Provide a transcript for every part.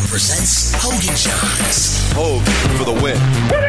presents Hogan Johns. Hogue for the win.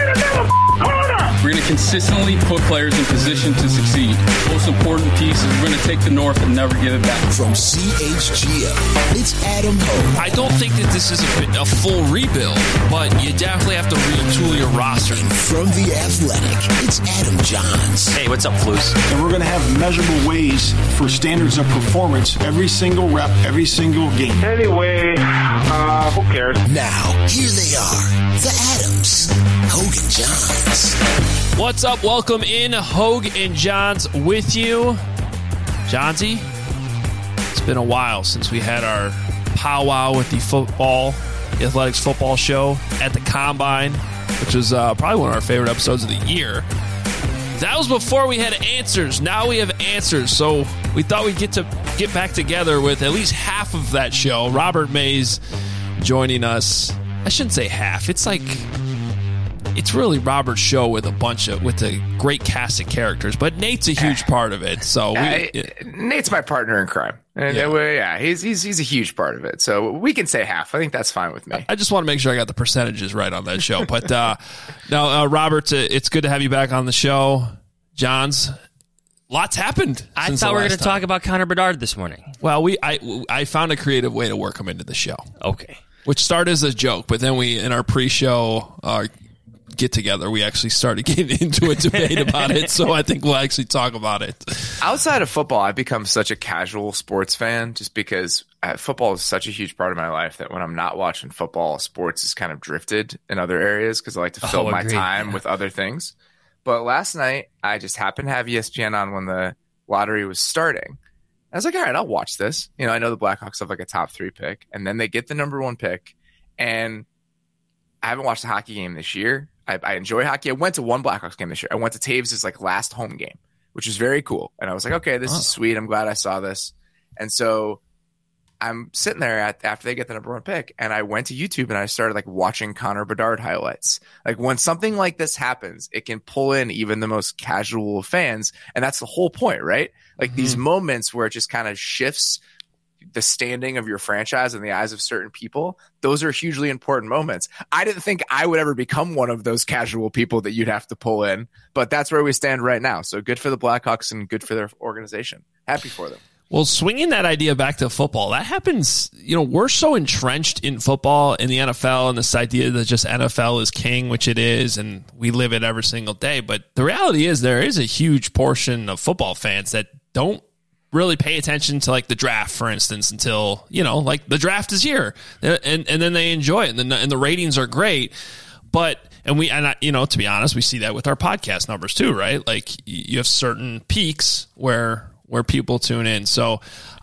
We're going to consistently put players in position to succeed. Most important piece is we're going to take the North and never give it back. From CHGO, it's Adam Hogue. I don't think that this is a full rebuild, but you definitely have to retool your roster. And from The Athletic, it's Adam Johns. Hey, what's up, Flus? And we're going to have measurable ways for standards of performance every single rep, every single game. Anyway, who cares? Now, here they are, the Adams, Hogan Johns. What's up? Welcome in, Hogue and Johns with you. Johnsy, it's been a while since we had our powwow with the athletics football show at the Combine, which was probably one of our favorite episodes of the year. That was before we had answers. Now we have answers, so we thought we'd get back together with at least half of that show. Robert Mays joining us. I shouldn't say half. It's really Robert's show with a great cast of characters, but Nate's a huge part of it. So Nate's my partner in crime, and he's a huge part of it. So we can say half. I think that's fine with me. I just want to make sure I got the percentages right on that show. But now, Robert, it's good to have you back on the show. Johns, lots happened. I thought we were going to talk about Connor Bedard this morning. Well, I found a creative way to work him into the show. Okay, which started as a joke, but then we in our pre-show get together, we actually started getting into a debate about it, so I think we'll actually talk about it. Outside of football, I've become such a casual sports fan just because football is such a huge part of my life that when I'm not watching football, sports has kind of drifted in other areas because I like to fill my time with other things. But last night, I just happened to have ESPN on when the lottery was starting. I was like, all right, I'll watch this. I know the Blackhawks have like a top 3 pick, and then they get the number 1 pick, and I haven't watched a hockey game this year. I enjoy hockey. I went to one Blackhawks game this year. I went to Taves' last home game, which was very cool. And I was like, okay, this is sweet. I'm glad I saw this. And so I'm sitting there after they get the number 1 pick, and I went to YouTube and I started watching Connor Bedard highlights. When something like this happens, it can pull in even the most casual of fans. And that's the whole point, right? These moments where it just kind of shifts the standing of your franchise in the eyes of certain people, those are hugely important moments. I didn't think I would ever become one of those casual people that you'd have to pull in, but that's where we stand right now. So good for the Blackhawks and good for their organization. Happy for them. Well, swinging that idea back to football, that happens, we're so entrenched in football, in the NFL, and this idea that just NFL is king, which it is, and we live it every single day. But the reality is there is a huge portion of football fans that don't really pay attention to the draft, for instance, until, the draft is here and then they enjoy it and the ratings are great. But, to be honest, we see that with our podcast numbers too, right? You have certain peaks where people tune in. So,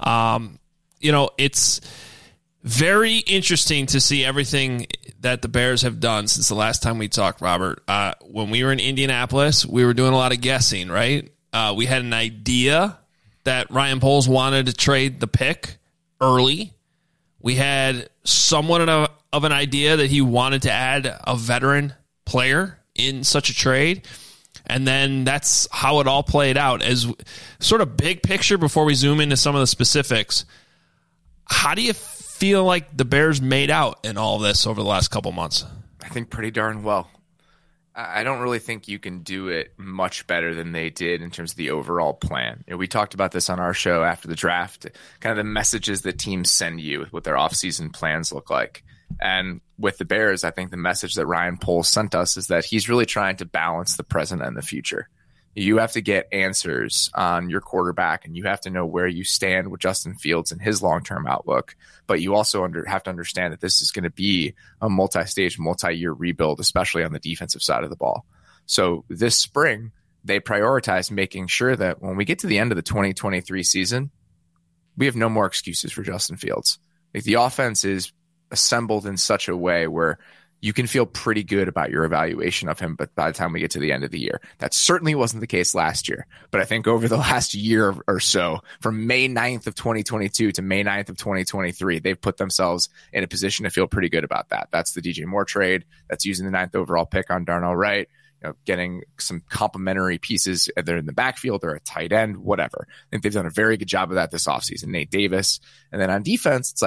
it's very interesting to see everything that the Bears have done since the last time we talked, Robert. When we were in Indianapolis, we were doing a lot of guessing, right? We had an idea that Ryan Poles wanted to trade the pick early. We had somewhat of an idea that he wanted to add a veteran player in such a trade. And then that's how it all played out. As sort of big picture before we zoom into some of the specifics, how do you feel like the Bears made out in all of this over the last couple months? I think pretty darn well. I don't really think you can do it much better than they did in terms of the overall plan. We talked about this on our show after the draft, kind of the messages that teams send you with what their offseason plans look like. And with the Bears, I think the message that Ryan Poles sent us is that he's really trying to balance the present and the future. You have to get answers on your quarterback, and you have to know where you stand with Justin Fields and his long-term outlook. But you also have to understand that this is going to be a multi-stage, multi-year rebuild, especially on the defensive side of the ball. So this spring, they prioritized making sure that when we get to the end of the 2023 season, we have no more excuses for Justin Fields. The offense is assembled in such a way where you can feel pretty good about your evaluation of him, but by the time we get to the end of the year, that certainly wasn't the case last year. But I think over the last year or so, from May 9th of 2022 to May 9th of 2023, they've put themselves in a position to feel pretty good about that. That's the DJ Moore trade. That's using the 9th overall pick on Darnell Wright, getting some complementary pieces, either in the backfield or a tight end, whatever. I think they've done a very good job of that this offseason. Nate Davis. And then on defense, it's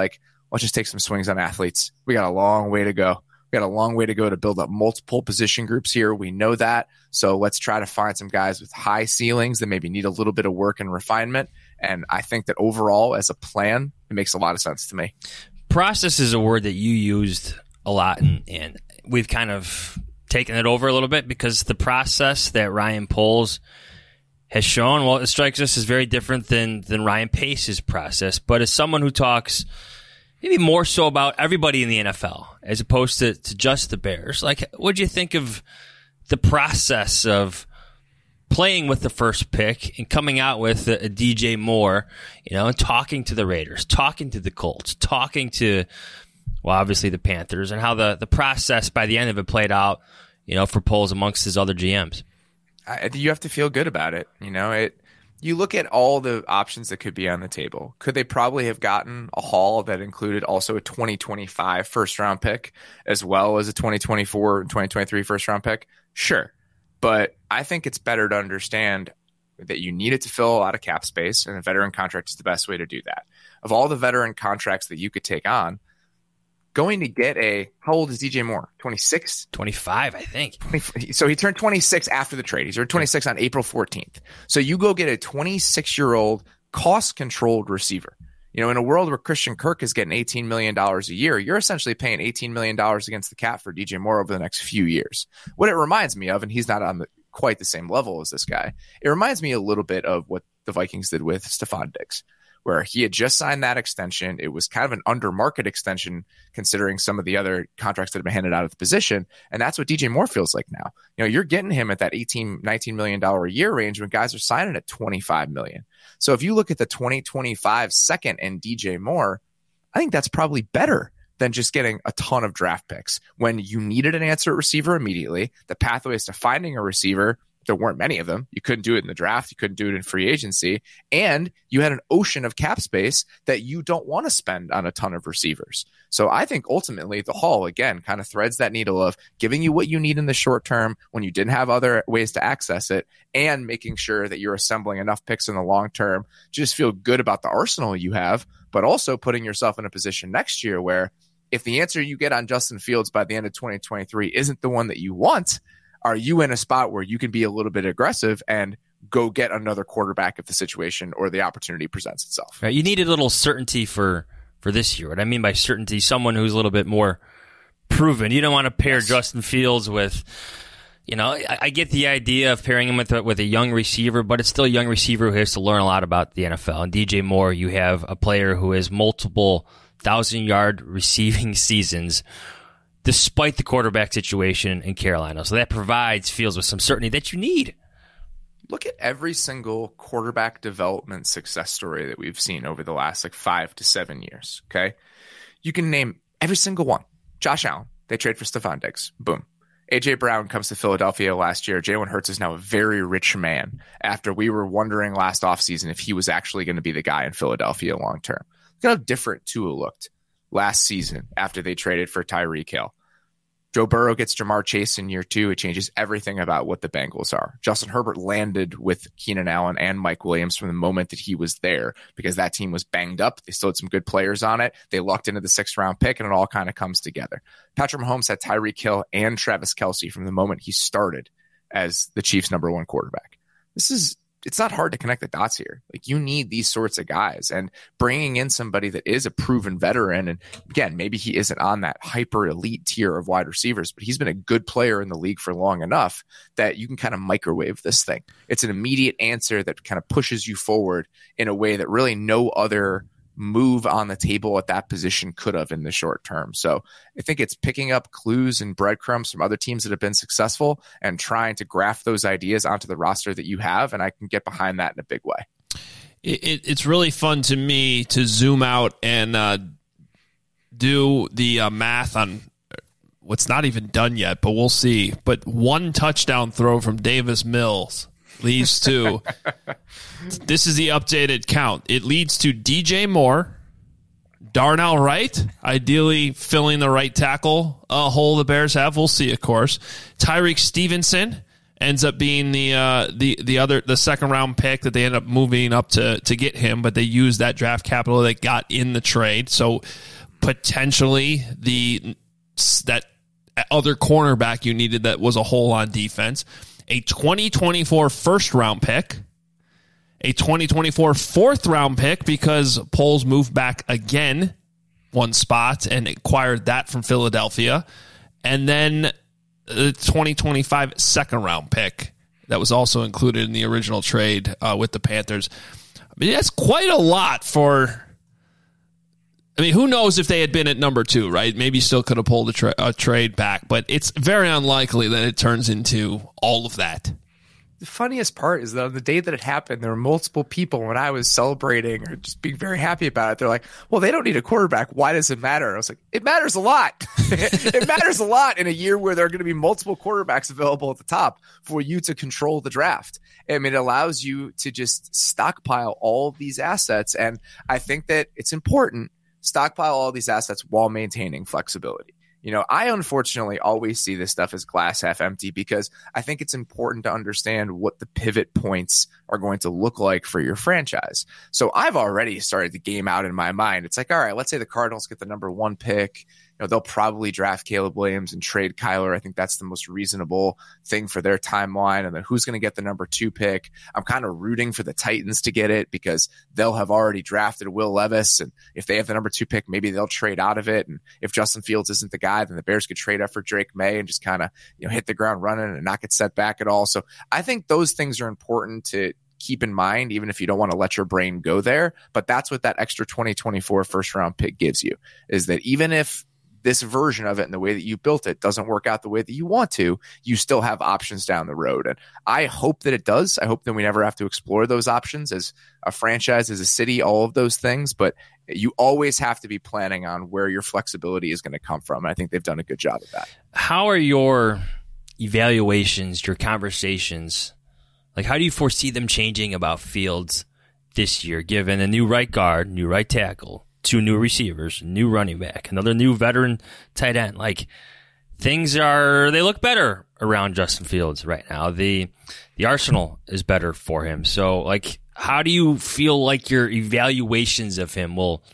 let's just take some swings on athletes. We got a long way to go. We got a long way to go to build up multiple position groups here. We know that. So let's try to find some guys with high ceilings that maybe need a little bit of work and refinement. And I think that overall, as a plan, it makes a lot of sense to me. Process is a word that you used a lot, and we've kind of taken it over a little bit because the process that Ryan Poles has shown, well, it strikes us as very different than Ryan Pace's process. But as someone who talks maybe more so about everybody in the NFL as opposed to just the Bears, like, what do you think of the process of playing with the first pick and coming out with a DJ Moore, and talking to the Raiders, talking to the Colts, talking to, well, obviously the Panthers, and how the process by the end of it played out, for Poles amongst his other GMs? You have to feel good about it. You look at all the options that could be on the table. Could they probably have gotten a haul that included also a 2025 first-round pick as well as a 2024 and 2023 first-round pick? Sure. But I think it's better to understand that you needed to fill a lot of cap space, and a veteran contract is the best way to do that. Of all the veteran contracts that you could take on, going to get how old is DJ Moore? 26? 25, I think. So he turned 26 after the trade. He turned 26 on April 14th. So you go get a 26-year-old cost-controlled receiver. In a world where Christian Kirk is getting $18 million a year, you're essentially paying $18 million against the cap for DJ Moore over the next few years. What it reminds me of, and he's not on quite the same level as this guy, it reminds me a little bit of what the Vikings did with Stephon Diggs, where he had just signed that extension. It was kind of an under-market extension considering some of the other contracts that have been handed out at the position, and that's what DJ Moore feels like now. You're getting him at that $19 million a year range when guys are signing at $25 million. So if you look at the 2025 second and DJ Moore, I think that's probably better than just getting a ton of draft picks. When you needed an answer at receiver immediately, the pathways to finding a receiver, there weren't many of them. You couldn't do it in the draft. You couldn't do it in free agency. And you had an ocean of cap space that you don't want to spend on a ton of receivers. So I think ultimately the haul, again, kind of threads that needle of giving you what you need in the short term when you didn't have other ways to access it, and making sure that you're assembling enough picks in the long term to just feel good about the arsenal you have, but also putting yourself in a position next year where if the answer you get on Justin Fields by the end of 2023 isn't the one that you want, are you in a spot where you can be a little bit aggressive and go get another quarterback if the situation or the opportunity presents itself? Right. You need a little certainty for this year. What I mean by certainty, someone who's a little bit more proven. You don't want to pair Justin Fields with, I get the idea of pairing him with a young receiver, but it's still a young receiver who has to learn a lot about the NFL. And DJ Moore, you have a player who has multiple 1,000-yard receiving seasons despite the quarterback situation in Carolina. So that provides Fields with some certainty that you need. Look at every single quarterback development success story that we've seen over the last 5 to 7 years. Okay. You can name every single one. Josh Allen, they trade for Stephon Diggs. Boom. A.J. Brown comes to Philadelphia last year. Jalen Hurts is now a very rich man after we were wondering last offseason if he was actually going to be the guy in Philadelphia long term. Look at how different Tua looked last season after they traded for Tyreek Hill. Joe Burrow gets Jamar Chase in year 2. It changes everything about what the Bengals are. Justin Herbert landed with Keenan Allen and Mike Williams from the moment that he was there because that team was banged up. They still had some good players on it. They lucked into the 6th-round pick, and it all kind of comes together. Patrick Mahomes had Tyreek Hill and Travis Kelce from the moment he started as the Chiefs' number 1 quarterback. It's not hard to connect the dots here. You need these sorts of guys, and bringing in somebody that is a proven veteran. And again, maybe he isn't on that hyper elite tier of wide receivers, but he's been a good player in the league for long enough that you can kind of microwave this thing. It's an immediate answer that kind of pushes you forward in a way that really no other move on the table at that position could have in the short term. So I think it's picking up clues and breadcrumbs from other teams that have been successful and trying to graft those ideas onto the roster that you have. And I can get behind that in a big way. It's really fun to me to zoom out and do the math on what's not even done yet, but we'll see. But one touchdown throw from Davis Mills leads to, this is the updated count. It leads to DJ Moore, Darnell Wright, ideally filling the right tackle hole the Bears have. We'll see, of course. Tyreek Stevenson ends up being the 2nd-round pick that they end up moving up to get him, but they used that draft capital they got in the trade. So potentially that other cornerback you needed that was a hole on defense, a 2024 first-round pick, a 2024 fourth-round pick because Poles moved back again one spot and acquired that from Philadelphia, and then the 2025 second-round pick that was also included in the original trade with the Panthers. I mean, that's quite a lot for... I mean, who knows if they had been at number 2, right? Maybe still could have pulled a trade back, but it's very unlikely that it turns into all of that. The funniest part is that on the day that it happened, there were multiple people when I was celebrating or just being very happy about it. They're like, well, they don't need a quarterback. Why does it matter? I was like, it matters a lot. It matters a lot in a year where there are going to be multiple quarterbacks available at the top for you to control the draft. I mean, it allows you to just stockpile all of these assets. And I think that it's important. Stockpile all these assets while maintaining flexibility. You know, I unfortunately always see this stuff as glass half empty because I think it's important to understand what the pivot points are going to look like for your franchise. So I've already started the game out in my mind. It's like, all right, let's say the Cardinals get the number 1 pick. You know, they'll probably draft Caleb Williams and trade Kyler. I think that's the most reasonable thing for their timeline. And then who's going to get the number 2 pick? I'm kind of rooting for the Titans to get it because they'll have already drafted Will Levis. And if they have the number 2 pick, maybe they'll trade out of it. And if Justin Fields isn't the guy, then the Bears could trade up for Drake May and just kind of, you know, hit the ground running and not get set back at all. So I think those things are important to keep in mind, even if you don't want to let your brain go there. But that's what that extra 2024 first round pick gives you, is that even if this version of it and the way that you built it doesn't work out the way that you want to, you still have options down the road. And I hope that it does. I hope that we never have to explore those options as a franchise, as a city, all of those things. But you always have to be planning on where your flexibility is going to come from. And I think they've done a good job of that. How are your evaluations, your conversations, like how do you foresee them changing about Fields this year, given a new right guard, new right tackle, 2 new receivers, new running back, another new veteran tight end? Like, things they look better around Justin Fields right now. The arsenal is better for him. So, like, how do you feel like your evaluations of him will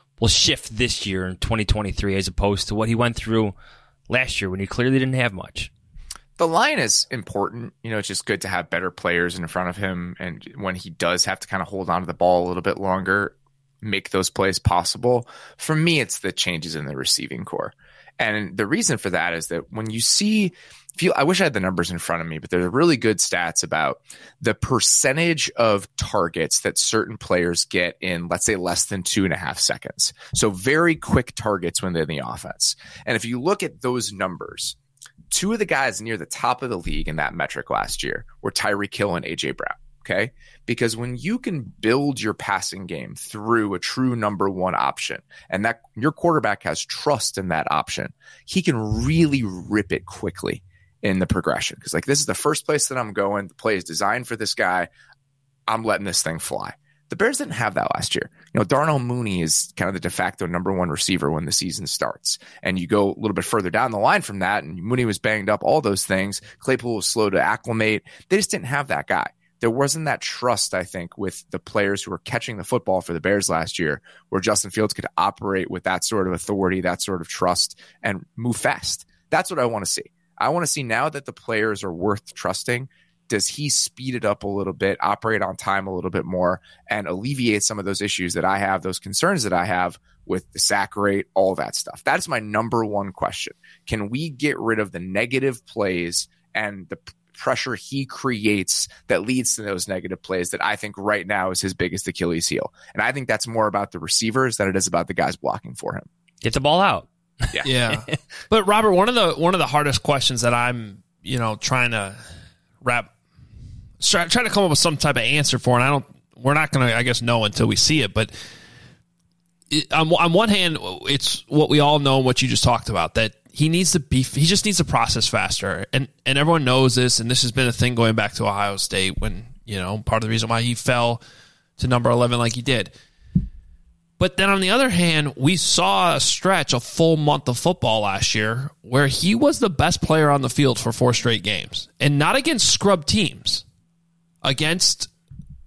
shift this year in 2023 as opposed to what he went through last year when he clearly didn't have much? The line is important. You know, it's just good to have better players in front of him. And when he does have to kind of hold on to the ball a little bit longer, make those plays possible. For me, it's the changes in the receiving core. And the reason for that is that when you see, I wish I had the numbers in front of me, but there's really good stats about the percentage of targets that certain players get in, let's say, less than 2.5 seconds. So very quick targets when they're in the offense. And if you look at those numbers, 2 of the guys near the top of the league in that metric last year were Tyreek Hill and A.J. Brown. Okay. Because when you can build your passing game through a true number 1 option, and that your quarterback has trust in that option, he can really rip it quickly in the progression. Because like, this is the first place that I'm going. The play is designed for this guy. I'm letting this thing fly. The Bears didn't have that last year. You know, Darnell Mooney is kind of the de facto number 1 receiver when the season starts. And you go a little bit further down the line from that, and Mooney was banged up, all those things. Claypool was slow to acclimate. They just didn't have that guy. There wasn't that trust, I think, with the players who were catching the football for the Bears last year, where Justin Fields could operate with that sort of authority, that sort of trust, and move fast. That's what I want to see. I want to see now that the players are worth trusting, does he speed it up a little bit, operate on time a little bit more, and alleviate some of those issues that I have, those concerns that I have with the sack rate, all that stuff? That is my number 1 question. Can we get rid of the negative plays and the pressure he creates that leads to those negative plays that I think right now is his biggest Achilles heel? And I think that's more about the receivers than it is about the guys blocking for him. Get the ball out. Yeah. But Robert, one of the hardest questions that I'm, trying to try to come up with some type of answer for, and we're not going to, I guess, know until we see it, but on one hand, it's what we all know and what you just talked about, that he just needs to process faster. And everyone knows this, and this has been a thing going back to Ohio State when, part of the reason why he fell to number 11 like he did. But then on the other hand, we saw a full month of football last year where he was the best player on the field for 4 straight games. And not against scrub teams, against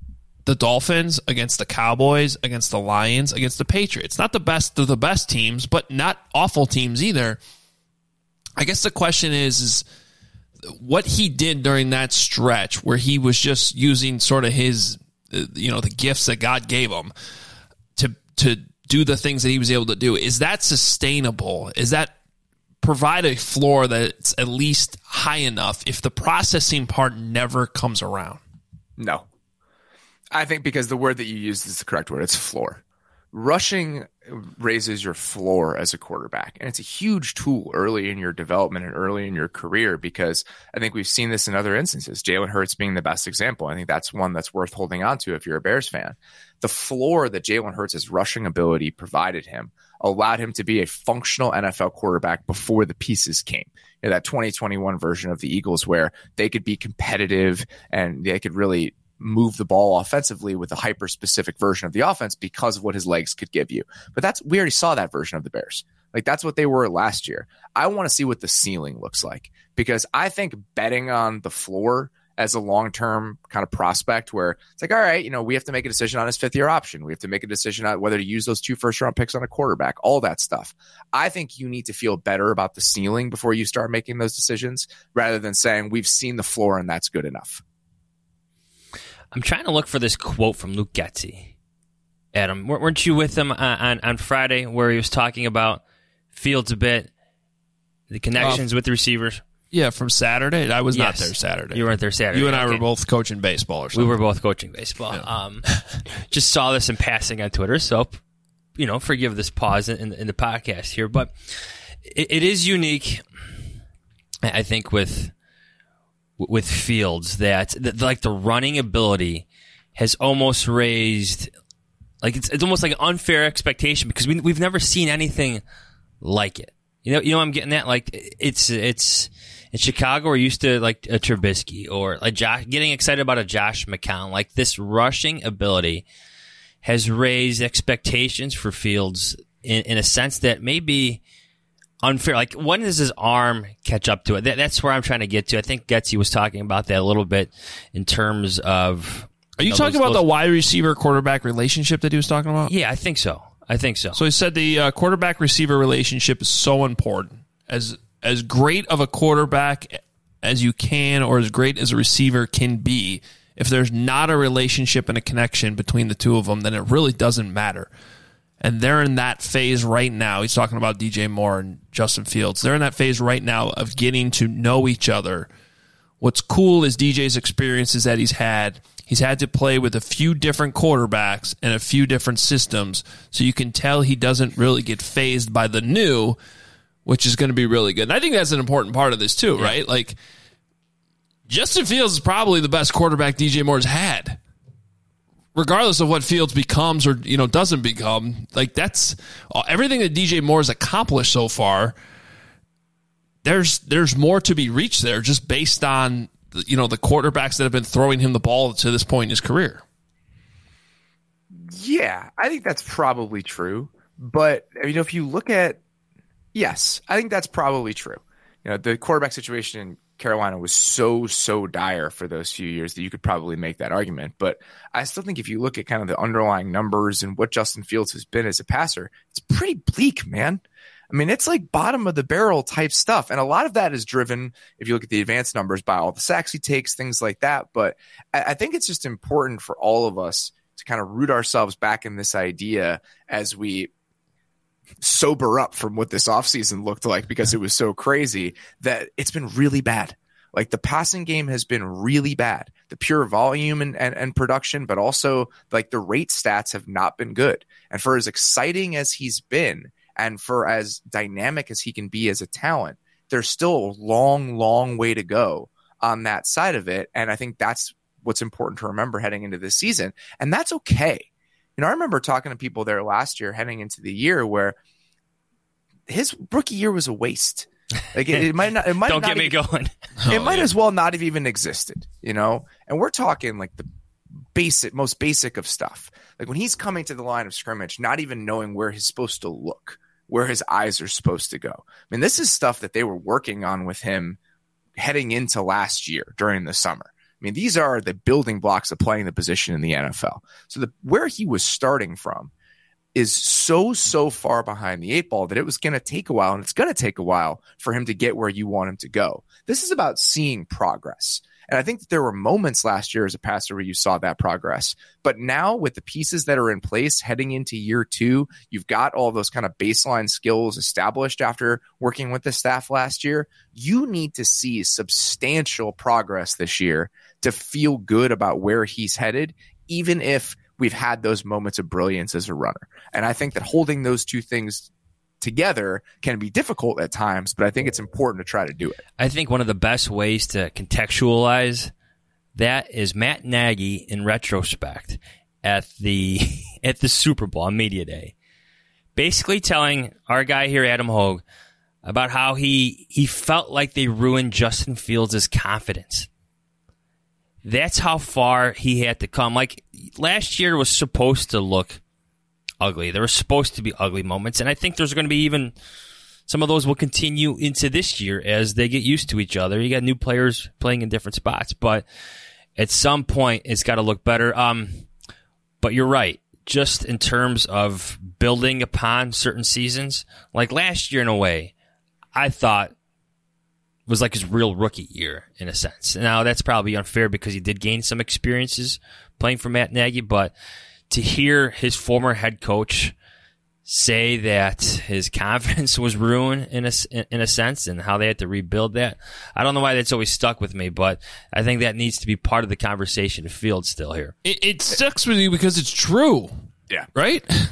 the Dolphins, against the Cowboys, against the Lions, against the Patriots. Not the best of the best teams, but not awful teams either. I guess the question is what he did during that stretch where he was just using sort of his, the gifts that God gave him to do the things that he was able to do. Is that sustainable? Is that provide a floor that's at least high enough if the processing part never comes around? No. I think because the word that you used is the correct word. It's floor. Rushing raises your floor as a quarterback, and it's a huge tool early in your development and early in your career, because I think we've seen this in other instances. Jalen Hurts being the best example. I think that's one that's worth holding on to if you're a Bears fan. The floor that Jalen Hurts' rushing ability provided him allowed him to be a functional NFL quarterback before the pieces came. That 2021 version of the Eagles where they could be competitive and they could really move the ball offensively with a hyper-specific version of the offense because of what his legs could give you. But we already saw that version of the Bears. Like, that's what they were last year. I want to see what the ceiling looks like, because I think betting on the floor as a long-term kind of prospect where it's like, all right, we have to make a decision on his fifth-year option. We have to make a decision on whether to use those 2 first-round picks on a quarterback, all that stuff. I think you need to feel better about the ceiling before you start making those decisions, rather than saying we've seen the floor and that's good enough. I'm trying to look for this quote from Luke Getsy. Adam, weren't you with him on Friday where he was talking about Fields a bit, the connections with the receivers? Yeah, from Saturday. I was not there Saturday. You weren't there Saturday. You and I were both coaching baseball or something. We were both coaching baseball. Yeah. Just saw this in passing on Twitter, so, forgive this pause in the podcast here. But it is unique, I think, with Fields that like the running ability has almost raised, like it's almost like an unfair expectation, because we've never seen anything like it. I'm getting at, like it's in Chicago we're used to like a Trubisky or like getting excited about a Josh McCown. Like, this rushing ability has raised expectations for Fields in a sense that may be unfair. Like, when does his arm catch up to it? That's where I'm trying to get to. I think Getsy was talking about that a little bit in terms of. Are you talking about the wide receiver quarterback relationship that he was talking about? Yeah, I think so. So he said the quarterback receiver relationship is so important. As great of a quarterback as you can, or as great as a receiver can be, if there's not a relationship and a connection between the two of them, then it really doesn't matter. And they're in that phase right now. He's talking about DJ Moore and Justin Fields. They're in that phase right now of getting to know each other. What's cool is DJ's experiences that he's had. He's had to play with a few different quarterbacks and a few different systems, so you can tell he doesn't really get fazed by the new, which is going to be really good. And I think that's an important part of this too, right? Like, Justin Fields is probably the best quarterback DJ Moore's had, regardless of what Fields becomes or doesn't become. Like, that's everything that DJ Moore's accomplished so far. There's more to be reached there, just based on the quarterbacks that have been throwing him the ball to this point in his career. Yeah, I think that's probably true. But if you look at, yes, I think that's probably true. The quarterback situation in Carolina was so dire for those few years that you could probably make that argument. But I still think if you look at kind of the underlying numbers and what Justin Fields has been as a passer, it's pretty bleak, man. I mean, it's like bottom of the barrel type stuff. And a lot of that is driven, if you look at the advanced numbers, by all the sacks he takes, things like that. But I think it's just important for all of us to kind of root ourselves back in this idea as we sober up from what this offseason looked like, because it was so crazy, that it's been really bad. Like, the passing game has been really bad. The pure volume and production, but also like the rate stats have not been good. And for as exciting as he's been, and for as dynamic as he can be as a talent, there's still a long way to go on that side of it. And I think that's what's important to remember heading into this season. And that's okay. I remember talking to people there last year heading into the year where his rookie year was a waste. Like, it might not. It might Don't not get me even, going. It might as well not have even existed, And we're talking like the most basic of stuff. Like, when he's coming to the line of scrimmage, not even knowing where he's supposed to look, where his eyes are supposed to go. I mean, this is stuff that they were working on with him heading into last year during the summer. mean, these are the building blocks of playing the position in the NFL. So where he was starting from is so far behind the 8 ball that it was going to take a while, and it's going to take a while for him to get where you want him to go. This is about seeing progress. And I think that there were moments last year as a passer where you saw that progress. But now with the pieces that are in place heading into year 2, you've got all those kind of baseline skills established after working with the staff last year. You need to see substantial progress this year to feel good about where he's headed, even if we've had those moments of brilliance as a runner. And I think that holding those two things together can be difficult at times, but I think it's important to try to do it. I think one of the best ways to contextualize that is Matt Nagy in retrospect at the Super Bowl on Media Day, basically telling our guy here, Adam Hogue, about how he felt like they ruined Justin Fields' confidence. That's how far he had to come. Like, last year was supposed to look ugly. There were supposed to be ugly moments, and I think there's going to be even some of those will continue into this year as they get used to each other. You got new players playing in different spots, but at some point it's got to look better. But you're right. Just in terms of building upon certain seasons, like last year in a way, I thought was like his real rookie year in a sense. Now that's probably unfair because he did gain some experiences playing for Matt Nagy, but to hear his former head coach say that his confidence was ruined in a sense and how they had to rebuild that, I don't know why that's always stuck with me, but I think that needs to be part of the conversation of Fields still here. It sticks with you because it's true. Yeah. Right? That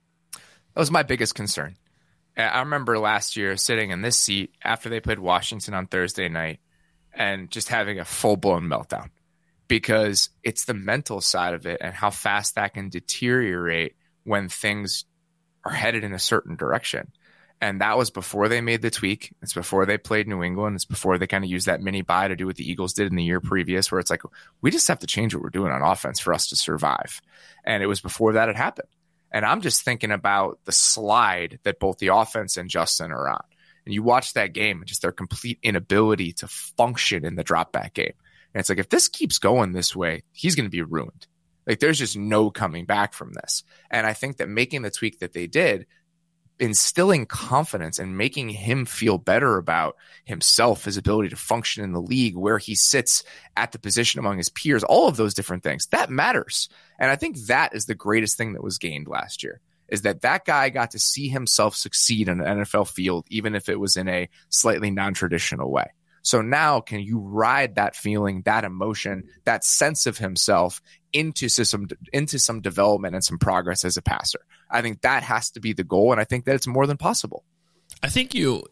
was my biggest concern. I remember last year sitting in this seat after they played Washington on Thursday night and just having a full-blown meltdown, because it's the mental side of it and how fast that can deteriorate when things are headed in a certain direction. And that was before they made the tweak. It's before they played New England. It's before they kind of used that mini bye to do what the Eagles did in the year previous, where it's like, we just have to change what we're doing on offense for us to survive. And it was before that had happened. And I'm just thinking about the slide that both the offense and Justin are on. And you watch that game and just their complete inability to function in the drop back game. And it's like, if this keeps going this way, he's going to be ruined. Like, there's just no coming back from this. And I think that making the tweak that they did, instilling confidence and making him feel better about himself, his ability to function in the league, where he sits at the position among his peers, all of those different things, that matters. And I think that is the greatest thing that was gained last year, is that guy got to see himself succeed in an NFL field, even if it was in a slightly non-traditional way. So now can you ride that feeling, that emotion, that sense of himself into some development and some progress as a passer? I think that has to be the goal, and I think that it's more than possible. I think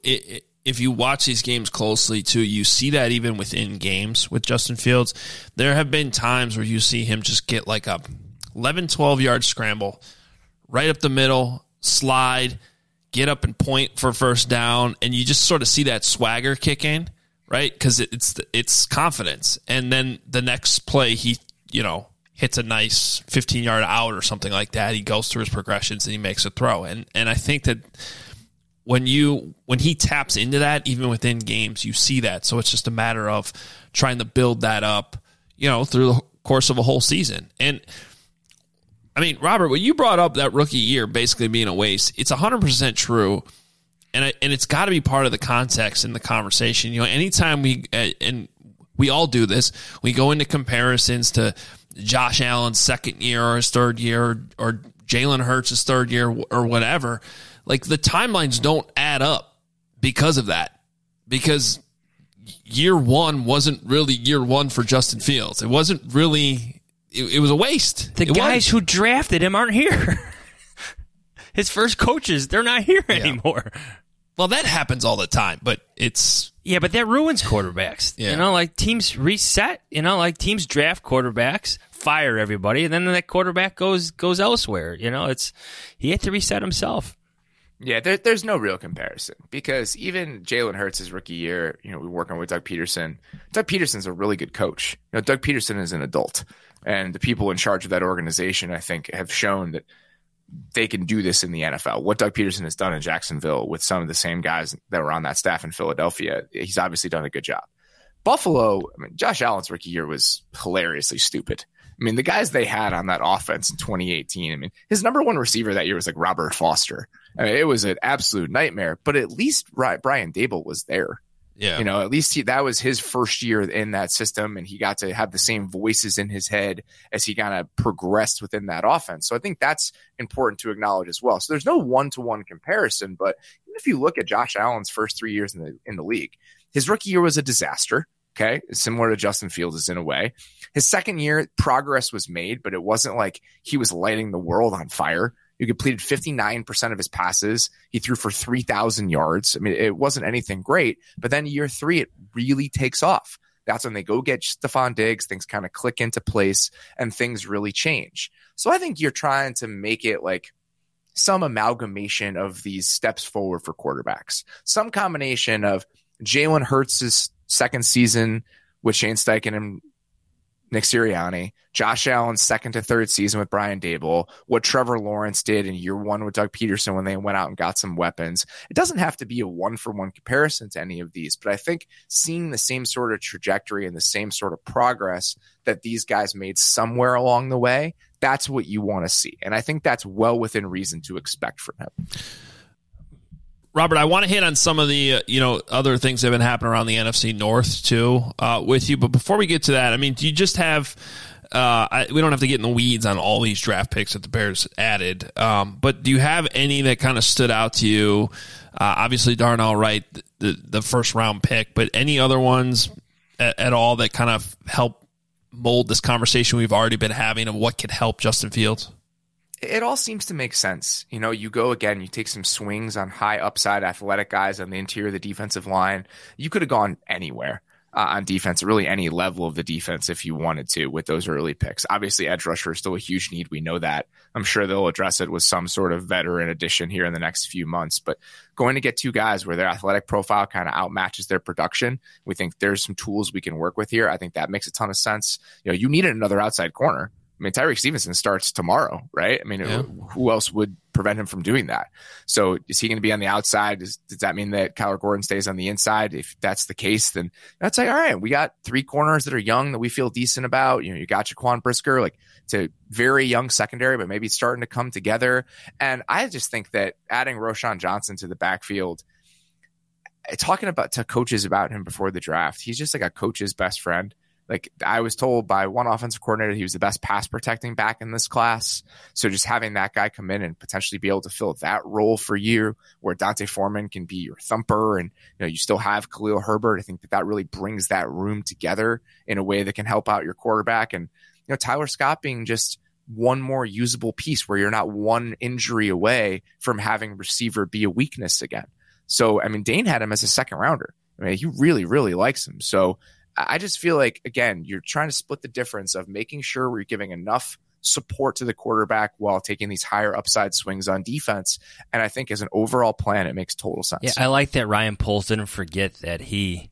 if you watch these games closely, too, you see that even within games with Justin Fields. There have been times where you see him just get like a 11, 12-yard scramble, right up the middle, slide, get up and point for first down, and you just sort of see that swagger kick in. Right, because it's confidence, and then the next play he hits a nice 15-yard out or something like that. He goes through his progressions and he makes a throw, and I think that when he taps into that, even within games, you see that. So it's just a matter of trying to build that up, through the course of a whole season. And I mean, Robert, when you brought up that rookie year basically being a waste, it's 100% true. And it's got to be part of the context in the conversation. Anytime we all do this, we go into comparisons to Josh Allen's second year or his third year or Jalen Hurts' third year or whatever. Like, the timelines don't add up because of that. Because year one wasn't really year one for Justin Fields. It wasn't really – it was a waste. The guys who drafted him aren't here. His first coaches, they're not here anymore. Well, that happens all the time, but it's... Yeah, but that ruins quarterbacks. Yeah. Like teams reset, like teams draft quarterbacks, fire everybody, and then that quarterback goes elsewhere. He had to reset himself. Yeah, there's no real comparison, because even Jalen Hurts' rookie year, we're working with Doug Peterson. Doug Peterson's a really good coach. Doug Peterson is an adult, and the people in charge of that organization, I think, have shown that they can do this in the NFL. What Doug Peterson has done in Jacksonville with some of the same guys that were on that staff in Philadelphia, he's obviously done a good job. Buffalo, I mean, Josh Allen's rookie year was hilariously stupid. I mean, the guys they had on that offense in 2018, I mean, his number one receiver that year was like Robert Foster. I mean, it was an absolute nightmare, but at least Brian Daboll was there. Yeah. You know, at least that was his first year in that system, and he got to have the same voices in his head as he kind of progressed within that offense. So I think that's important to acknowledge as well. So there's no one-to-one comparison, but even if you look at Josh Allen's first 3 years in the league, his rookie year was a disaster. Okay, similar to Justin Fields in a way. His second year, progress was made, but it wasn't like he was lighting the world on fire. He completed 59% of his passes. He threw for 3,000 yards. I mean, it wasn't anything great. But then year 3, it really takes off. That's when they go get Stephon Diggs. Things kind of click into place and things really change. So I think you're trying to make it like some amalgamation of these steps forward for quarterbacks. Some combination of Jalen Hurts' second season with Shane Steichen and Nick Sirianni, Josh Allen's second to third season with Brian Daboll, what Trevor Lawrence did in year 1 with Doug Peterson when they went out and got some weapons. It doesn't have to be a one-for-one comparison to any of these, but I think seeing the same sort of trajectory and the same sort of progress that these guys made somewhere along the way, that's what you want to see. And I think that's well within reason to expect from him. Robert, I want to hit on some of the other things that have been happening around the NFC North too with you. But before we get to that, I mean, do you just have we don't have to get in the weeds on all these draft picks that the Bears added, but do you have any that kind of stood out to you? Obviously, Darnell Wright, the first round pick, but any other ones at all that kind of help mold this conversation we've already been having of what could help Justin Fields? It all seems to make sense. You know, you go again, you take some swings on high upside athletic guys on the interior of the defensive line. You could have gone anywhere on defense, really any level of the defense if you wanted to with those early picks. Obviously, edge rusher is still a huge need. We know that. I'm sure they'll address it with some sort of veteran addition here in the next few months. But going to get 2 guys where their athletic profile kind of outmatches their production, we think there's some tools we can work with here. I think that makes a ton of sense. You know, you needed another outside corner. I mean, Tyreek Stevenson starts tomorrow, right? I mean, Who else would prevent him from doing that? So is he going to be on the outside? Does that mean that Kyler Gordon stays on the inside? If that's the case, then that's like, all right, we got 3 corners that are young that we feel decent about. You know, you got Jaquan Brisker, like it's a very young secondary, but maybe it's starting to come together. And I just think that adding Roschon Johnson to the backfield, talking to coaches about him before the draft, he's just like a coach's best friend. Like I was told by one offensive coordinator, he was the best pass protecting back in this class. So just having that guy come in and potentially be able to fill that role for you where Dante Foreman can be your thumper and, you know, you still have Khalil Herbert. I think that really brings that room together in a way that can help out your quarterback. And, you know, Tyler Scott being just one more usable piece where you're not one injury away from having receiver be a weakness again. So, I mean, Dane had him as a second rounder. I mean, he really, really likes him. So, I just feel like, again, you're trying to split the difference of making sure we're giving enough support to the quarterback while taking these higher upside swings on defense. And I think as an overall plan, it makes total sense. Yeah, I like that Ryan Poles didn't forget that he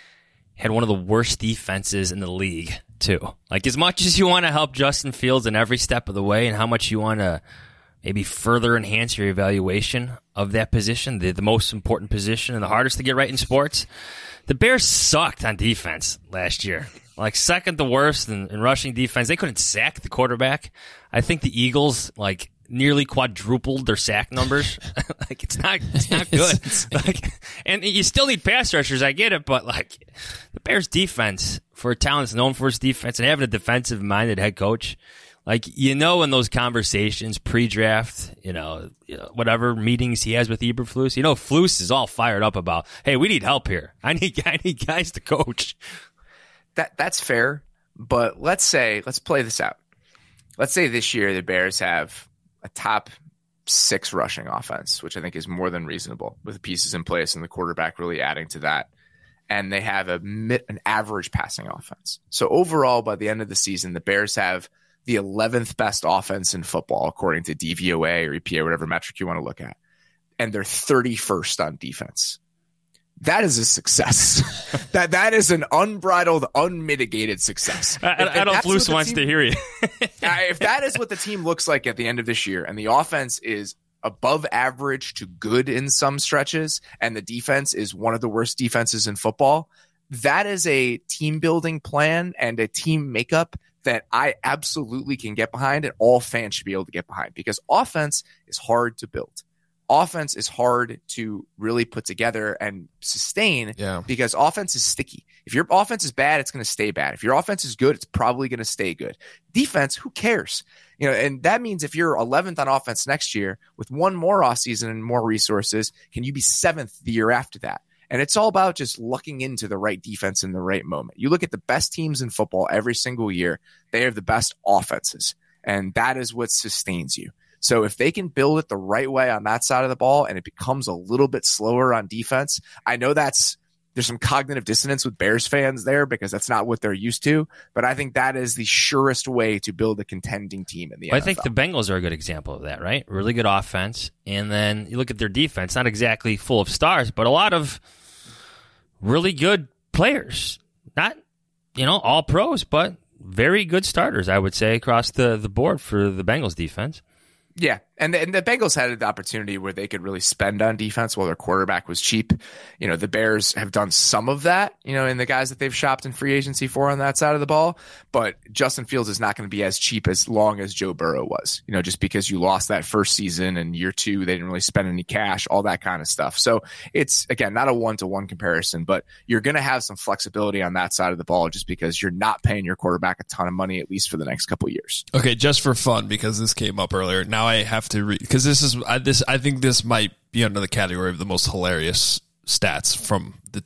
had one of the worst defenses in the league, too. Like, as much as you want to help Justin Fields in every step of the way and how much you want to maybe further enhance your evaluation of that position, the most important position and the hardest to get right in sports, the Bears sucked on defense last year. Like second the worst in rushing defense. They couldn't sack the quarterback. I think the Eagles like nearly quadrupled their sack numbers. Like it's not good. Like, and you still need pass rushers. I get it, but like the Bears defense for a talent that's known for its defense and having a defensive minded head coach. Like, you know, in those conversations pre-draft, you know, whatever meetings he has with Eberflus, you know, Flus is all fired up about, hey, we need help here. I need guys to coach. That's fair. But let's play this out. Let's say this year the Bears have a top 6 rushing offense, which I think is more than reasonable with the pieces in place and the quarterback really adding to that. And they have an average passing offense. So overall, by the end of the season, the Bears have the 11th best offense in football, according to DVOA or EPA, whatever metric you want to look at. And they're 31st on defense. That is a success. that is an unbridled, unmitigated success. I don't Flus wants to hear you. If that is what the team looks like at the end of this year, and the offense is above average to good in some stretches, and the defense is one of the worst defenses in football, that is a team building plan and a team makeup that I absolutely can get behind, and all fans should be able to get behind, because offense is hard to build. Offense is hard to really put together and sustain because offense is sticky. If your offense is bad, it's going to stay bad. If your offense is good, it's probably going to stay good. Defense, who cares? And that means if you're 11th on offense next year with one more offseason and more resources, can you be 7th the year after that? And it's all about just lucking into the right defense in the right moment. You look at the best teams in football every single year, they have the best offenses, and that is what sustains you. So if they can build it the right way on that side of the ball and it becomes a little bit slower on defense, I know there's some cognitive dissonance with Bears fans there because that's not what they're used to, but I think that is the surest way to build a contending team in the NFL. I think the Bengals are a good example of that, right? Really good offense, and then you look at their defense, not exactly full of stars, but a lot of really good players. Not, all pros, but very good starters, I would say, across the board for the Bengals defense. Yeah, and the Bengals had the opportunity where they could really spend on defense while their quarterback was cheap. The Bears have done some of that, in the guys that they've shopped in free agency for on that side of the ball. But Justin Fields is not going to be as cheap as long as Joe Burrow was, just because you lost that first season and year 2, they didn't really spend any cash, all that kind of stuff. So it's, again, not a one-to-one comparison, but you're going to have some flexibility on that side of the ball just because you're not paying your quarterback a ton of money, at least for the next couple of years. Okay, just for fun, because this came up earlier. Now I have to read, because I think this might be under the category of the most hilarious stats from the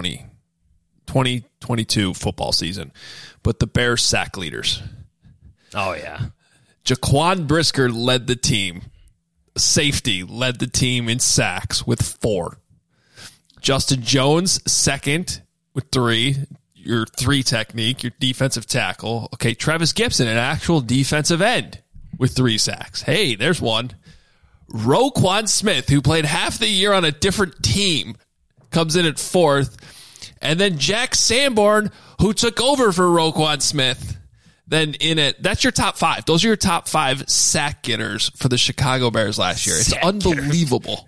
2022 football season. But the Bears sack leaders. Oh, yeah. Jaquan Brisker led the team. Safety led the team in sacks with 4. Justin Jones, second with 3. Your 3 technique, your defensive tackle. Okay, Travis Gibson, an actual defensive end with 3 sacks. Hey, there's one. Roquan Smith, who played half the year on a different team, comes in at 4th. And then Jack Sanborn, who took over for Roquan Smith, then in it. That's your top 5. Those are your top 5 sack getters for the Chicago Bears last year. It's unbelievable.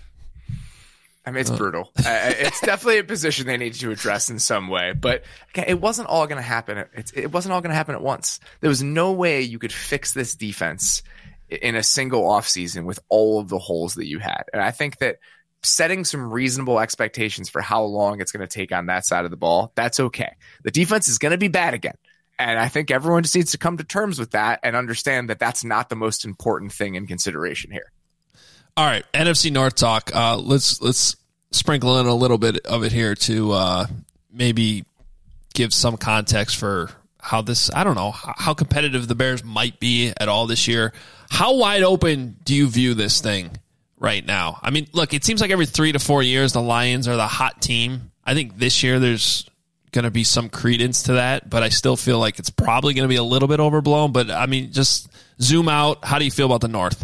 I mean, it's brutal. It's definitely a position they need to address in some way. But it wasn't all going to happen. It wasn't all going to happen at once. There was no way you could fix this defense in a single offseason with all of the holes that you had. And I think that setting some reasonable expectations for how long it's going to take on that side of the ball, that's okay. The defense is going to be bad again. And I think everyone just needs to come to terms with that and understand that that's not the most important thing in consideration here. All right, NFC North talk. Let's sprinkle in a little bit of it here to maybe give some context for how this, I don't know, how competitive the Bears might be at all this year. How wide open do you view this thing right now? I mean, look, it seems like every 3 to 4 years the Lions are the hot team. I think this year there's going to be some credence to that, but I still feel like it's probably going to be a little bit overblown. But, I mean, just zoom out. How do you feel about the North?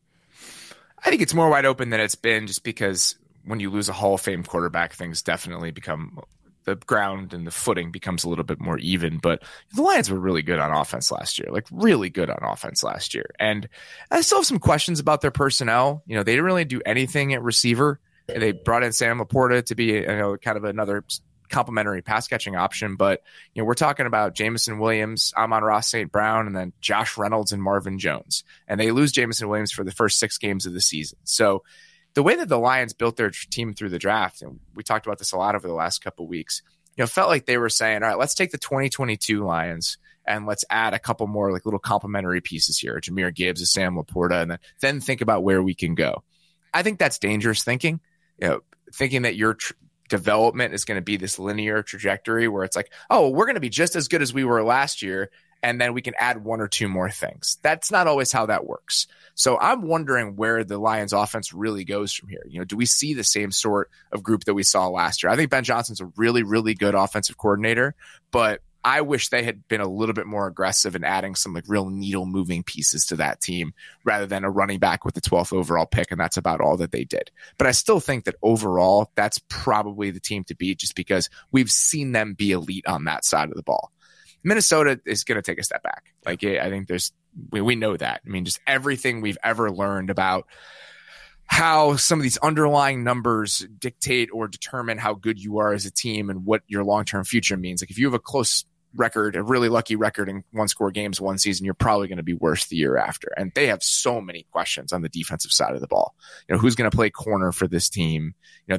I think it's more wide open than it's been, just because when you lose a Hall of Fame quarterback, things definitely become – the ground and the footing becomes a little bit more even. But the Lions were really good on offense last year, like really good on offense last year. And I still have some questions about their personnel. They didn't really do anything at receiver. They brought in Sam Laporta to be, kind of another complementary pass catching option. But, we're talking about Jameson Williams, Amon-Ra St. Brown, and then Josh Reynolds and Marvin Jones. And they lose Jameson Williams for the first 6 games of the season. So the way that the Lions built their team through the draft, and we talked about this a lot over the last couple of weeks, felt like they were saying, all right, let's take the 2022 Lions and let's add a couple more like little complementary pieces here, Jahmyr Gibbs, a Sam Laporta, and then think about where we can go. I think that's dangerous thinking, thinking that your development is going to be this linear trajectory where it's like, oh, we're going to be just as good as we were last year, and then we can add 1 or 2 more things. That's not always how that works. So I'm wondering where the Lions offense really goes from here. Do we see the same sort of group that we saw last year? I think Ben Johnson's a really, really good offensive coordinator, but I wish they had been a little bit more aggressive in adding some like real needle moving pieces to that team rather than a running back with the 12th overall pick. And that's about all that they did. But I still think that overall, that's probably the team to beat, just because we've seen them be elite on that side of the ball. Minnesota is going to take a step back. Like, I think we know that. I mean, just everything we've ever learned about how some of these underlying numbers dictate or determine how good you are as a team and what your long-term future means. Like if you have a close record, a really lucky record in one-score games one season, you're probably going to be worse the year after. And they have so many questions on the defensive side of the ball. Who's going to play corner for this team?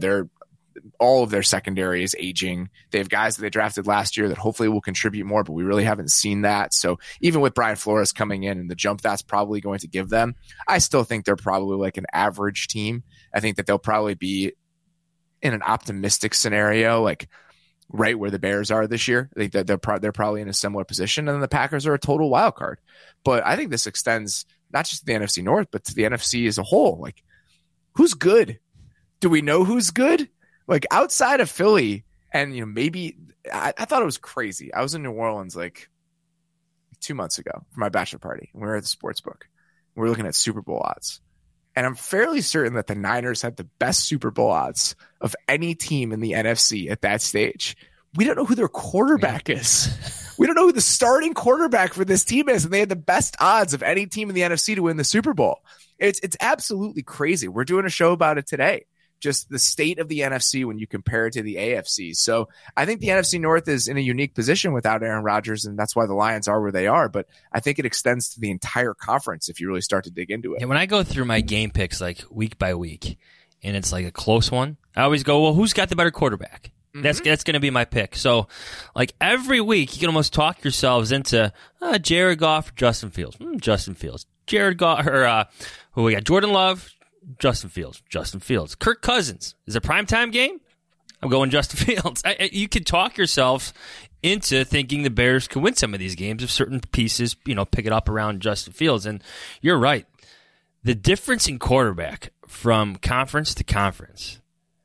All of their secondary is aging. They have guys that they drafted last year that hopefully will contribute more, but we really haven't seen that. So even with Brian Flores coming in and the jump that's probably going to give them, I still think they're probably like an average team. I think that they'll probably be in an optimistic scenario, like right where the Bears are this year. I think that they're probably in a similar position, and then the Packers are a total wild card. But I think this extends not just to the NFC North, but to the NFC as a whole. Like, who's good? Do we know who's good? Like outside of Philly, and maybe I thought it was crazy. I was in New Orleans like 2 months ago for my bachelor party, and we were at the sports book. We were looking at Super Bowl odds, and I'm fairly certain that the Niners had the best Super Bowl odds of any team in the NFC at that stage. We don't know who their quarterback is. We don't know who the starting quarterback for this team is, and they had the best odds of any team in the NFC to win the Super Bowl. It's absolutely crazy. We're doing a show about it today. Just the state of the NFC when you compare it to the AFC. So I think the NFC North is in a unique position without Aaron Rodgers, and that's why the Lions are where they are. But I think it extends to the entire conference if you really start to dig into it. And when I go through my game picks like week by week, and it's like a close one, I always go, well, who's got the better quarterback? Mm-hmm. That's going to be my pick. So like every week, you can almost talk yourselves into Jared Goff or Justin Fields. Justin Fields. Jared Goff or who we got? Jordan Love. Justin Fields. Kirk Cousins. Is it a primetime game? I'm going Justin Fields. You could talk yourself into thinking the Bears could win some of these games if certain pieces, pick it up around Justin Fields. And you're right. The difference in quarterback from conference to conference,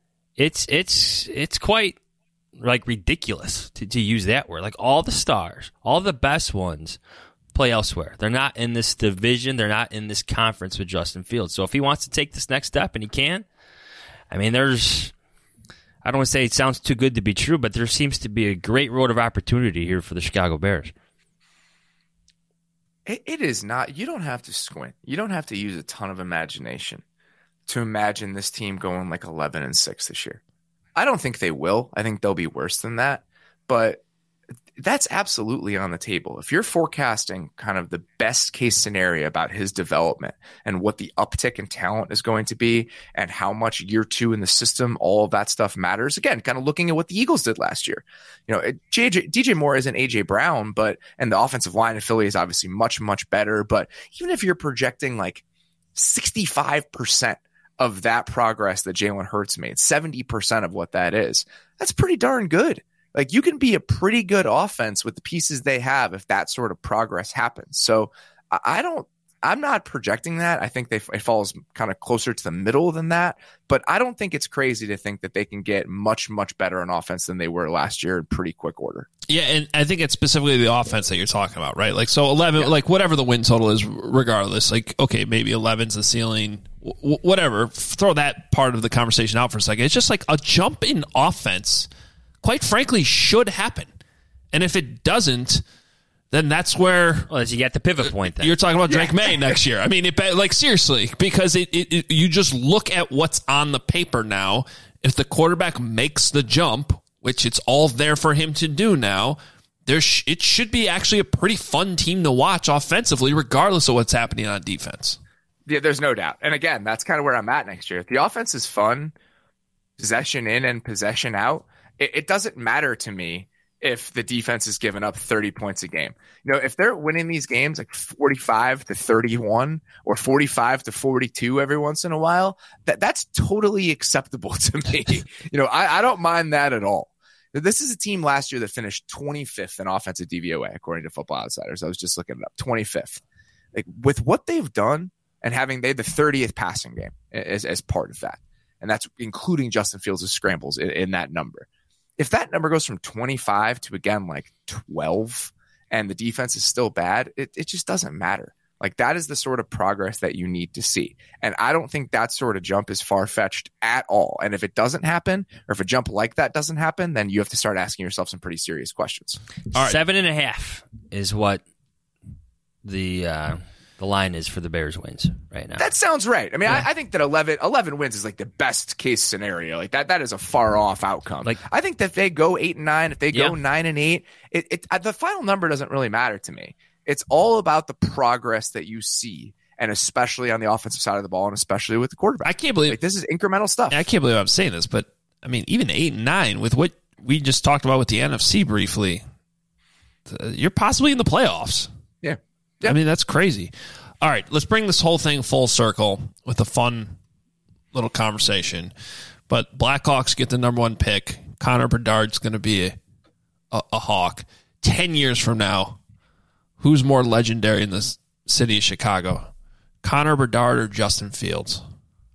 it's quite like ridiculous to use that word. Like all the stars, all the best ones play elsewhere. They're not in this division. They're not in this conference with Justin Fields. So if he wants to take this next step, and he can, I mean, I don't want to say it sounds too good to be true, but there seems to be a great road of opportunity here for the Chicago Bears. It is not. You don't have to squint. You don't have to use a ton of imagination to imagine this team going like 11-6 this year. I don't think they will. I think they'll be worse than that. But that's absolutely on the table. If you're forecasting kind of the best case scenario about his development and what the uptick in talent is going to be and how much year two in the system, all of that stuff matters. Again, kind of looking at what the Eagles did last year. DJ Moore isn't AJ Brown, and the offensive line in Philly is obviously much, much better. But even if you're projecting like 65% of that progress that Jalen Hurts made, 70% of what that is, that's pretty darn good. Like you can be a pretty good offense with the pieces they have if that sort of progress happens. So I'm not projecting that. I think it falls kind of closer to the middle than that, but I don't think it's crazy to think that they can get much, much better on offense than they were last year in pretty quick order. Yeah, and I think it's specifically the offense that you're talking about, right? Like, so 11, like whatever the win total is, regardless, like, okay, maybe 11's the ceiling, whatever. Throw that part of the conversation out for a second. It's just like a jump in offense, quite frankly, should happen. And if it doesn't, then that's where you get the pivot point. Then you're talking about Drake May next year. I mean, seriously, because you just look at what's on the paper now. If the quarterback makes the jump, which it's all there for him to do now, it should be actually a pretty fun team to watch offensively, regardless of what's happening on defense. Yeah, there's no doubt. And again, that's kind of where I'm at next year. If the offense is fun, possession in and possession out, it doesn't matter to me if the defense is giving up 30 points a game. If they're winning these games like 45-31 or 45-42 every once in a while, that's totally acceptable to me. I don't mind that at all. This is a team last year that finished 25th in offensive DVOA, according to Football Outsiders. I was just looking it up, 25th. Like with what they've done and they had the 30th passing game as part of that. And that's including Justin Fields' scrambles in that number. If that number goes from 25 to, again, like 12 and the defense is still bad, it just doesn't matter. Like that is the sort of progress that you need to see. And I don't think that sort of jump is far-fetched at all. And if it doesn't happen, or if a jump like that doesn't happen, then you have to start asking yourself some pretty serious questions. All right. 7.5 is what the the line is for the Bears wins right now. That sounds right. I mean, I think that 11 wins is like the best case scenario. Like that is a far off outcome. Like I think that if they go 8-9, if they go 9-8, the final number doesn't really matter to me. It's all about the progress that you see, and especially on the offensive side of the ball, and especially with the quarterback. I can't believe this is incremental stuff. I can't believe I'm saying this, but I mean, even 8-9 with what we just talked about with the NFC briefly, you're possibly in the playoffs. Yeah. I mean, that's crazy. All right, let's bring this whole thing full circle with a fun little conversation. But Blackhawks get the number 1 pick. Connor Bedard's going to be a Hawk. 10 years from now, who's more legendary in the city of Chicago? Connor Bedard or Justin Fields?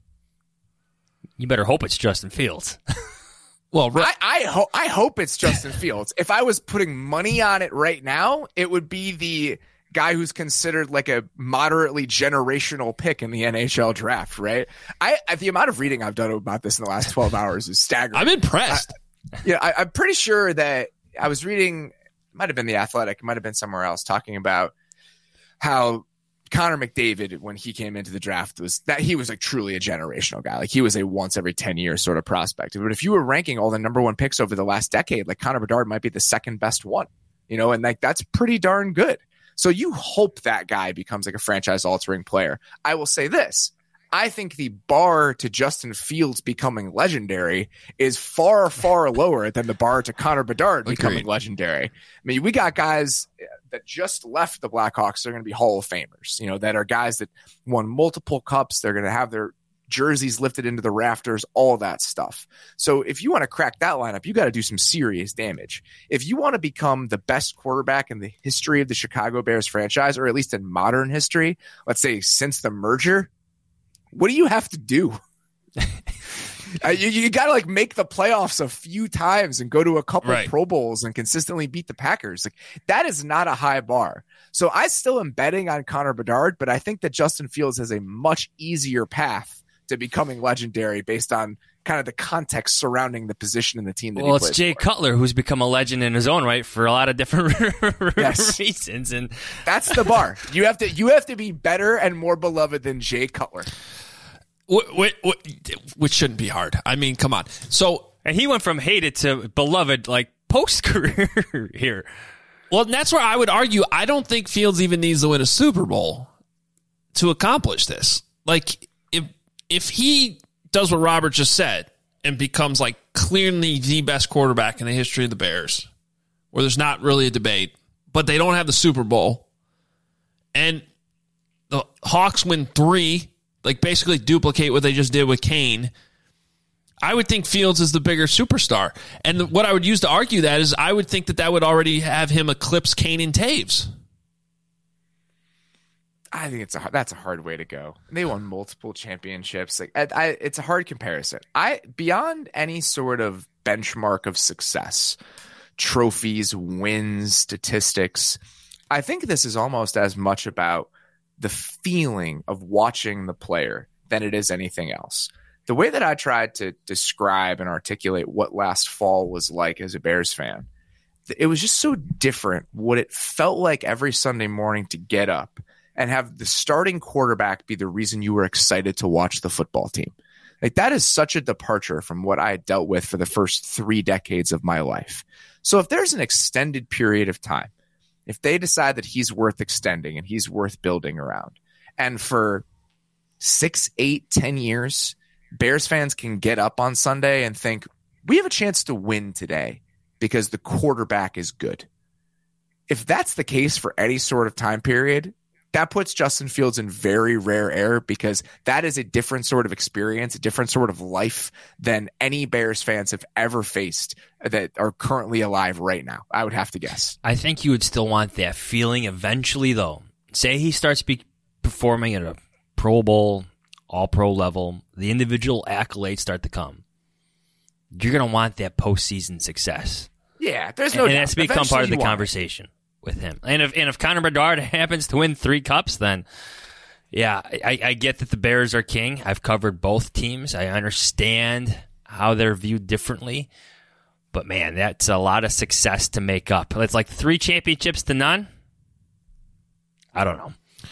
You better hope it's Justin Fields. Well, I hope it's Justin Fields. If I was putting money on it right now, it would be the guy who's considered like a moderately generational pick in the NHL draft, right? The amount of reading I've done about this in the last 12 hours is staggering. I'm impressed. I'm pretty sure that I was reading, it might have been The Athletic, it might have been somewhere else, talking about how Connor McDavid, when he came into the draft, was that he was like truly a generational guy. Like he was a once every 10 years sort of prospect. But if you were ranking all the number 1 picks over the last decade, like Connor Bedard might be the second best one, and like that's pretty darn good. So you hope that guy becomes like a franchise altering player. I will say this. I think the bar to Justin Fields becoming legendary is far, far lower than the bar to Connor Bedard becoming legendary. I mean, we got guys that just left the Blackhawks. They're going to be Hall of Famers, that are guys that won multiple cups. They're going to have their jerseys lifted into the rafters, all that stuff. So if you want to crack that lineup, you got to do some serious damage. If you want to become the best quarterback in the history of the Chicago Bears franchise, or at least in modern history, let's say since the merger, what do you have to do? You got to like make the playoffs a few times and go to a couple of Pro Bowls and consistently beat the Packers. Like that is not a high bar. So I still am betting on Connor Bedard, but I think that Justin Fields has a much easier path to becoming legendary based on kind of the context surrounding the position in the team that he plays. Well, it's Jay Cutler, who's become a legend in his own right for a lot of different reasons, and that's the bar. You have to be better and more beloved than Jay Cutler. Which shouldn't be hard. I mean, come on. And he went from hated to beloved like post career here. Well, and that's where I would argue. I don't think Fields even needs to win a Super Bowl to accomplish this. Like if he does what Robert just said and becomes like clearly the best quarterback in the history of the Bears, where there's not really a debate, but they don't have the Super Bowl, and the Hawks win 3, like basically duplicate what they just did with Kane, I would think Fields is the bigger superstar. And what I would use to argue that is I would think that would already have him eclipse Kane and Taves. I think that's a hard way to go. They won multiple championships. Like it's a hard comparison. Beyond any sort of benchmark of success, trophies, wins, statistics, I think this is almost as much about the feeling of watching the player than it is anything else. The way that I tried to describe and articulate what last fall was like as a Bears fan, it was just so different what it felt like every Sunday morning to get up and have the starting quarterback be the reason you were excited to watch the football team. Like that is such a departure from what I had dealt with for the first 3 decades of my life. So if there's an extended period of time, if they decide that he's worth extending and he's worth building around, and for 6, 8, 10 years, Bears fans can get up on Sunday and think, we have a chance to win today because the quarterback is good. If that's the case for any sort of time period, that puts Justin Fields in very rare air, because that is a different sort of experience, a different sort of life than any Bears fans have ever faced that are currently alive right now, I would have to guess. I think you would still want that feeling eventually, though. Say he starts performing at a Pro Bowl, All-Pro level, the individual accolades start to come. You're going to want that postseason success. Yeah, there's no doubt. And that's become part of the conversation with him. And if Connor Bedard happens to win 3 cups, then yeah, I get that the Bears are king. I've covered both teams. I understand how they're viewed differently. But man, that's a lot of success to make up. It's like 3 championships to none. I don't know.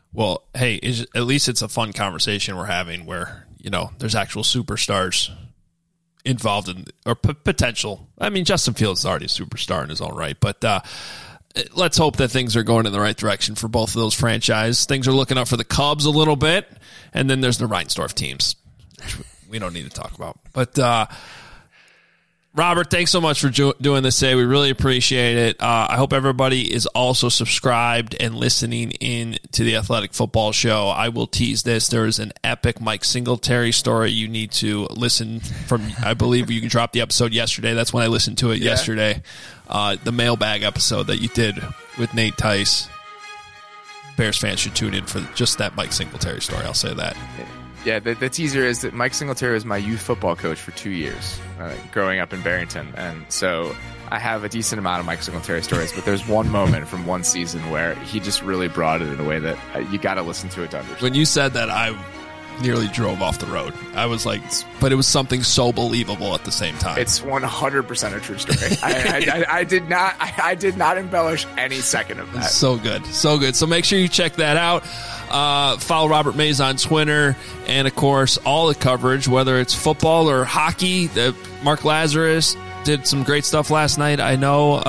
Well, hey, at least it's a fun conversation we're having where, there's actual superstars involved in, or potential. I mean, Justin Fields is already a superstar in his own right, but let's hope that things are going in the right direction for both of those franchises. Things are looking up for the Cubs a little bit, and then there's the Reinsdorf teams, which we don't need to talk about. But Robert, thanks so much for doing this today. We really appreciate it. I hope everybody is also subscribed and listening in to the Athletic Football Show. I will tease this. There is an epic Mike Singletary story you need to listen from. I believe you dropped the episode yesterday. That's when I listened to it yesterday. The mailbag episode that you did with Nate Tice. Bears fans should tune in for just that Mike Singletary story. I'll say that. Yeah, the teaser is that Mike Singletary was my youth football coach for 2 years growing up in Barrington. And so I have a decent amount of Mike Singletary stories, but there's one moment from one season where he just really brought it in a way that you got to listen to it to understand. When you said that, I nearly drove off the road. I was like, but it was something so believable at the same time. It's 100% a true story. I did not embellish any second of that. So good. So good. So make sure you check that out. Follow Robert Mays on Twitter, and of course all the coverage, whether it's football or hockey. Mark Lazarus did some great stuff last night. I know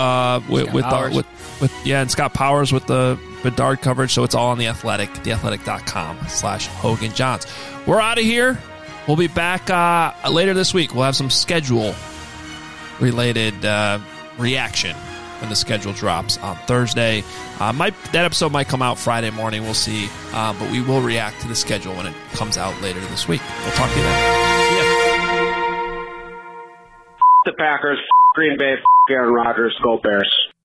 and Scott Powers with the Bedard coverage. So it's all on The Athletic, theathletic.com/Hogan Johns. We're out of here. We'll be back later this week. We'll have some schedule related reaction when the schedule drops on Thursday. That episode might come out Friday morning. We'll see. But we will react to the schedule when it comes out later this week. We'll talk to you then. See ya. The Packers, Green Bay, Aaron Rodgers, go Bears.